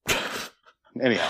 Anyhow.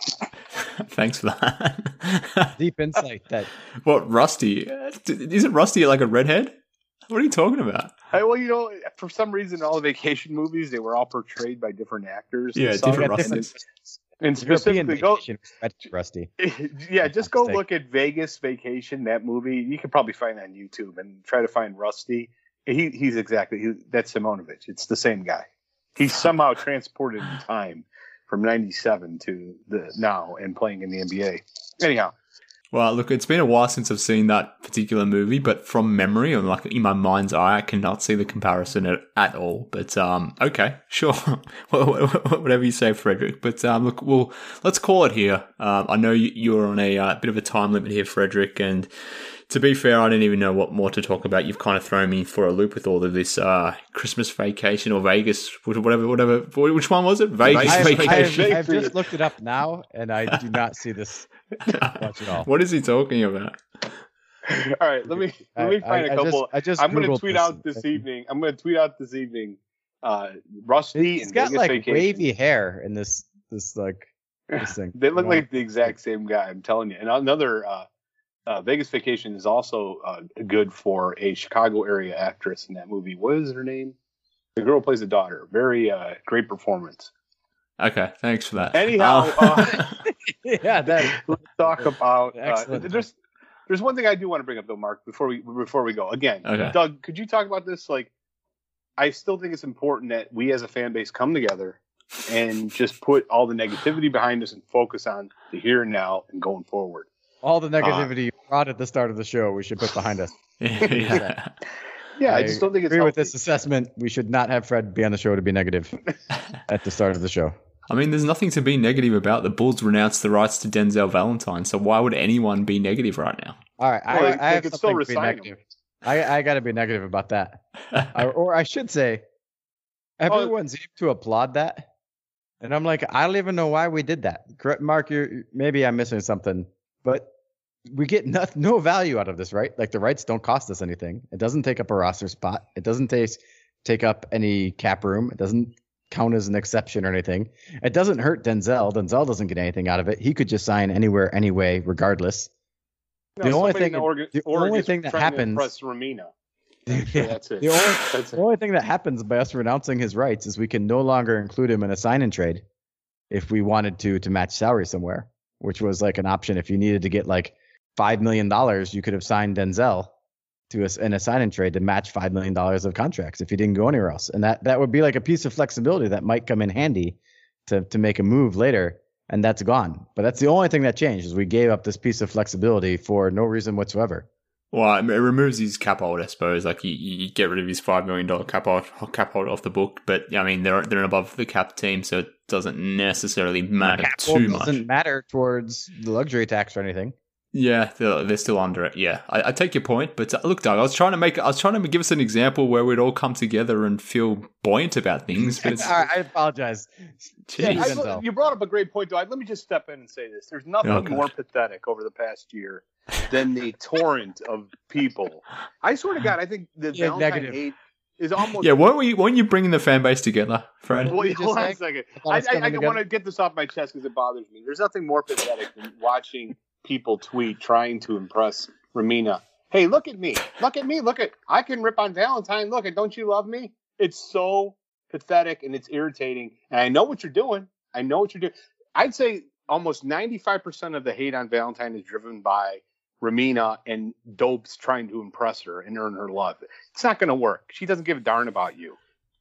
Thanks for that. Deep insight that. What, Rusty? Isn't Rusty like a redhead? What are you talking about? Hey, well, you know, for some reason, all the vacation movies, they were all portrayed by different actors. Yeah, and some- different Different- Rusties. And European specifically, go, vacation, Rusty. yeah, just go Fantastic. look at Vegas Vacation, that movie. You can probably find it on YouTube and try to find Rusty. He he's exactly he, that's Simonovic. It's the same guy. He's somehow transported in time from ninety-seven to the now and playing in the N B A. Anyhow, Well, look, it's been a while since I've seen that particular movie, but from memory, or like in my mind's eye, I cannot see the comparison at, at all. But um, okay, sure, whatever you say, Frederick. But um, look, well, let's call it here. Um, I know you, you're on a uh, bit of a time limit here, Frederick, and to be fair, I don't even know what more to talk about. You've kind of thrown me for a loop with all of this uh, Christmas vacation or Vegas, whatever, whatever. Which one was it? Vegas I have, I vacation. have, I've just looked it up now, and I do not see this much at all. What is he talking about? all right, let me let me I- find I- a I couple. just- I just I'm going to Googled tweet this. out this evening. I'm going to tweet out this evening. Uh, Rusty He's and got Vegas like Vacation. wavy hair in this this like this thing. They look You know? like the exact same guy. I'm telling you. And another uh, uh, Vegas Vacation is also uh, good for a Chicago area actress in that movie. What is her name? The girl who plays the daughter. Very uh, great performance. Okay, thanks for that. Anyhow, Uh, uh, yeah, that let's talk about. Uh, Excellent. there's there's one thing I do want to bring up though, Mark. Before we before we go again, Okay. Doug, could you talk about this? Like, I still think it's important that we as a fan base come together and just put all the negativity behind us and focus on the here and now and going forward. all the negativity you brought at the start of the show, we should put behind us. yeah. Yeah, I, I just don't think it's agree healthy. with this assessment. We should not have Fred be on the show to be negative at the start of the show. I mean, there's nothing to be negative about. The Bulls renounced the rights to Denzel Valentine, so why would anyone be negative right now? All right, Well, I, they- I they have could something still to be resign negative. I, I got to be negative about that. or, or I should say, everyone seemed to applaud that. And I'm like, I don't even know why we did that. Correct, Mark, you're, maybe I'm missing something, but we get no, no value out of this, right? Like the rights don't cost us anything. It doesn't take up a roster spot. It doesn't take, take up any cap room. It doesn't count as an exception or anything. It doesn't hurt Denzel. Denzel doesn't get anything out of it. He could just sign anywhere, anyway, regardless. No, the only somebody thing, in Oregon, the Oregon's only thing that trying to happens, impress Ramina. Yeah. That's it. The only, That's the it. only thing that happens by us renouncing his rights is we can no longer include him in a sign and trade if we wanted to to match salary somewhere, which was like an option. If you needed to get like five million dollars, you could have signed Denzel to us in a sign and trade to match five million dollars of contracts if you didn't go anywhere else. And that, that would be like a piece of flexibility that might come in handy to, to make a move later. And that's gone. But that's the only thing that changed is we gave up this piece of flexibility for no reason whatsoever. Well, it removes his cap hold, I suppose. Like you, you get rid of his five million dollar cap hold, cap hold off the book. But I mean, they're they're above the cap team, so it doesn't necessarily matter Cap too hold much. doesn't matter towards the luxury tax or anything. Yeah, they're, they're still under it. Yeah, I, I take your point, but uh, look, Doug, I was trying to make, I was trying to give us an example where we'd all come together and feel buoyant about things. But it's, All right, I apologize. Jeez. Yeah, I- Denzel. you brought up a great point, though. Let me just step in and say this. There's nothing Oh, God. more pathetic over the past year than the torrent of people. I swear to God, I think the Yeah, Valentine negative. eight is almost... yeah, weren't we? Weren't you bringing the fan base together, Fred? Wait, you just hold on a saying? second. thought I, it's I, coming I together. want to get this off my chest because it bothers me. There's nothing more pathetic than watching people tweet trying to impress Ramina. Hey, look at me. Look at me. Look at... I can rip on Valentine. Look at... Don't you love me? It's so pathetic and it's irritating. And I know what you're doing. I know what you're doing. I'd say almost ninety-five percent of the hate on Valentine is driven by Ramina and dopes trying to impress her and earn her love. It's not going to work. She doesn't give a darn about you.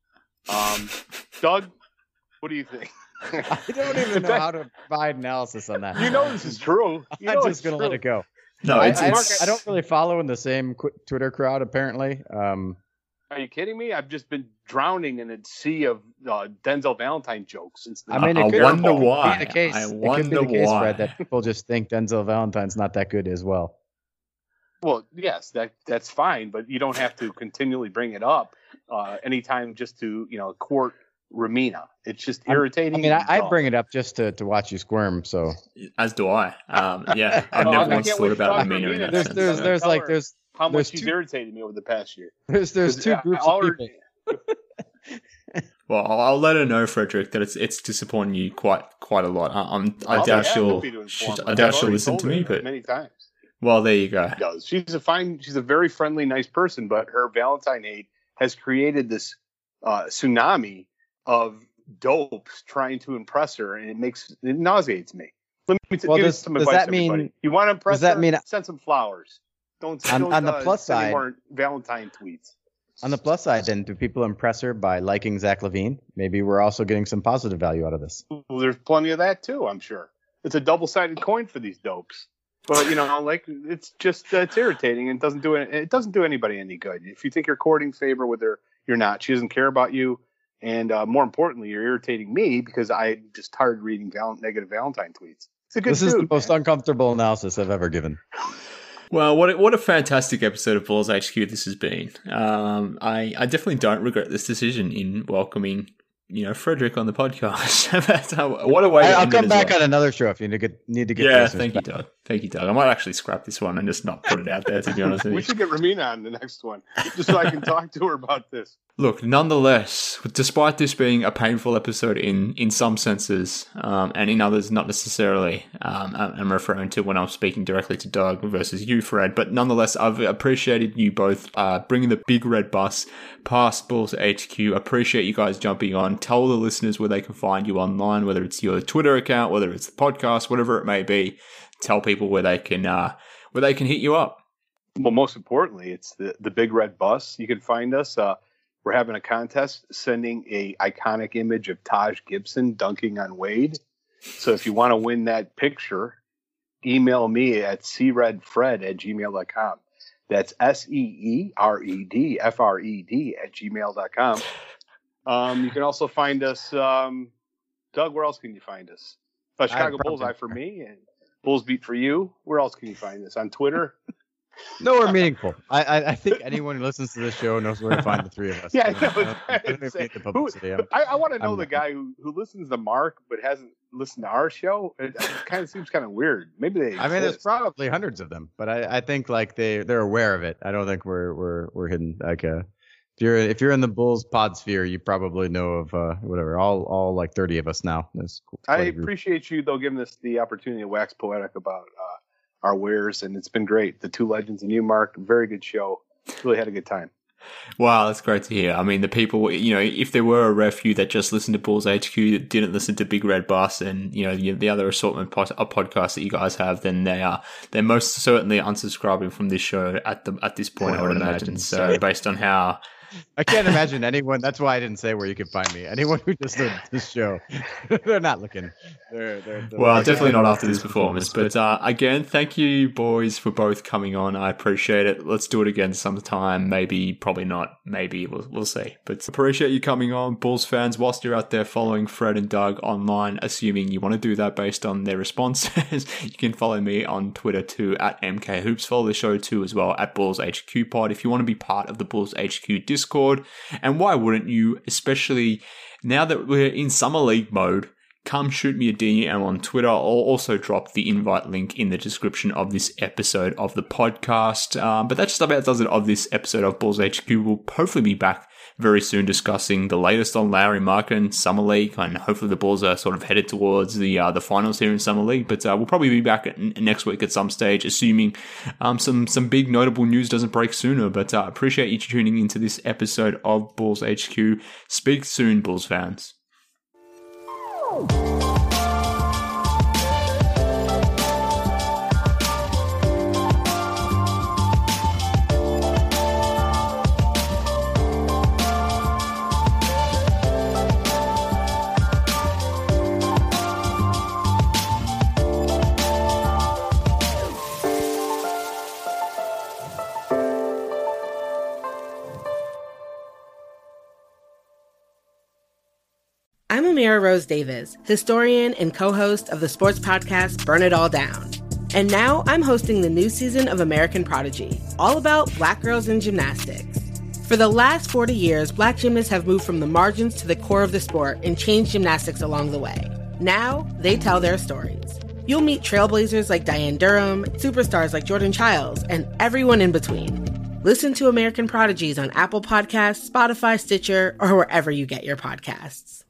Um, Doug, what do you think? I don't even know how to provide analysis on that. You know this is true. You know I'm it's just going to true. let it go. No, I, it's, I, it's I don't really follow in the same qu- Twitter crowd, apparently. Um, Are you kidding me? I've just been drowning in a sea of uh, Denzel Valentine jokes since the I mean, I it could wonder be why. the case. I it could be wonder the case, why. Fred, that people just think Denzel Valentine's not that good as well. Well, yes, that that's fine, but you don't have to continually bring it up uh, anytime just to you know court Ramina. It's just I'm- irritating. I mean, I, and I dumb. bring it up just to, to watch you squirm. So as do I. Um, yeah, I've No, never I once can't thought wait about to talk to Ramina in Ramina that there's sense. there's so. there's Tell like her there's how much there's she's two- irritated me over the past year. there's there's 'Cause, two uh, groups all of her- people. Well, I'll, I'll let her know, Frederick, that it's it's disappointing you quite quite a lot. I, I'm, I I'll be doubt happy she'll. to inform she's- her. I I've doubt she'll already listen told to her me, but many times. well, there you go. She does. She's a fine. She's a very friendly, nice person, but her Valentine hate has created this uh, tsunami of dopes trying to impress her, and it makes it nauseates me. Let me t- Well, give does- you some does advice, that mean- everybody. You want to impress does that her? mean- Send some flowers. Don't On- don't, on the uh, plus send any side- more Valentine tweets. On the plus side, then, do people impress her by liking Zach LaVine? Maybe we're also getting some positive value out of this. Well, there's plenty of that too. I'm sure it's a double-sided coin for these dopes. But you know, like it's just uh, it's irritating and it doesn't do it. It doesn't do anybody any good. If you think you're courting favor with her, you're not. She doesn't care about you, and uh, more importantly, you're irritating me because I'm just tired of reading val- negative Valentine tweets. It's a good This is dude, the most man. uncomfortable analysis I've ever given. Well, what a, what a fantastic episode of Bulls H Q this has been. Um, I, I definitely don't regret this decision in welcoming, you know, Frederick on the podcast. That's how, what a way I, to I'll end it come as back well. on another show if you need to get, need to get Yeah, listeners thank you, back. Doug. Thank you, Doug. I might actually scrap this one and just not put it out there, to be honest with We you. should get Ramina on the next one just so I can talk to her about this. Look, nonetheless, despite this being a painful episode in, in some senses, um, and in others not necessarily, um, I'm referring to when I'm speaking directly to Doug versus you, Fred, but nonetheless, I've appreciated you both uh, bringing the big red bus past Bulls H Q. Appreciate you guys jumping on. Tell the listeners where they can find you online, whether it's your Twitter account, whether it's the podcast, whatever it may be. Tell people where they can uh, where they can hit you up. Well, most importantly, it's the, the big red bus. You can find us. Uh, we're having a contest sending a iconic image of Taj Gibson dunking on Wade. So if you want to win that picture, email me at c red fred at gmail dot com. That's S E E R E D F R E D at gmail dot com. Um, you can also find us, um, Doug, where else can you find us? Uh, Chicago Bullseye for me and Bulls Beat for you. Where else can you find us? On Twitter? Nowhere meaningful. I, I I think anyone who listens to this show knows where to find the three of us. Yeah, I, know, I, I, don't need the publicity. who, I, I want to know I'm, the guy who, who listens to Mark but hasn't listened to our show. It, it kind of seems kind of weird. Maybe they exist. I mean, there's probably hundreds of them, but I, I think like they they're aware of it. I don't think we're we're we're hidden. Like uh, if you're if you're in the Bulls pod sphere, you probably know of uh, whatever all all like thirty of us now. That's I appreciate you though giving us the opportunity to wax poetic about uh, our wares, and it's been great. The Two Legends and you, Mark, very good show. Really had a good time. Wow, that's great to hear. I mean, the people, you know, if there were a rare few that just listened to Bulls H Q that didn't listen to Big Red Bus and, you know, the, the other assortment pod, of podcasts that you guys have, then they are, they're most certainly unsubscribing from this show at the at this point, I would imagine. So based on how... I can't imagine anyone. That's why I didn't say where you could find me. Anyone who just heard this show, they're not looking. They're, they're, they're well, definitely not after this performance. But uh, again, thank you, boys, for both coming on. I appreciate it. Let's do it again sometime. Maybe, probably not. Maybe we'll we'll see. But appreciate you coming on, Bulls fans. Whilst you're out there following Fred and Doug online, assuming you want to do that based on their responses, you can follow me on Twitter too at M K Hoops. Follow the show too as well at Bulls H Q Pod if you want to be part of the Bulls H Q Discord. Discord, and why wouldn't you, especially now that we're in summer league mode? Come shoot me a D M on Twitter. I'll also drop the invite link in the description of this episode of the podcast. Um, but that just about does it of this episode of Bulls H Q. We'll hopefully be back very soon discussing the latest on Lauri Markkanen, Summer League, and hopefully the Bulls are sort of headed towards the uh, the finals here in Summer League. But uh, we'll probably be back at, next week at some stage, assuming um, some some big notable news doesn't break sooner. But I uh, appreciate you tuning into this episode of Bulls H Q. Speak soon, Bulls fans. I'm Amira Rose Davis, historian and co-host of the sports podcast Burn It All Down. And now I'm hosting the new season of American Prodigy, all about Black girls in gymnastics. For the last forty years, Black gymnasts have moved from the margins to the core of the sport and changed gymnastics along the way. Now, they tell their stories. You'll meet trailblazers like Diane Durham, superstars like Jordan Childs, and everyone in between. Listen to American Prodigies on Apple Podcasts, Spotify, Stitcher, or wherever you get your podcasts.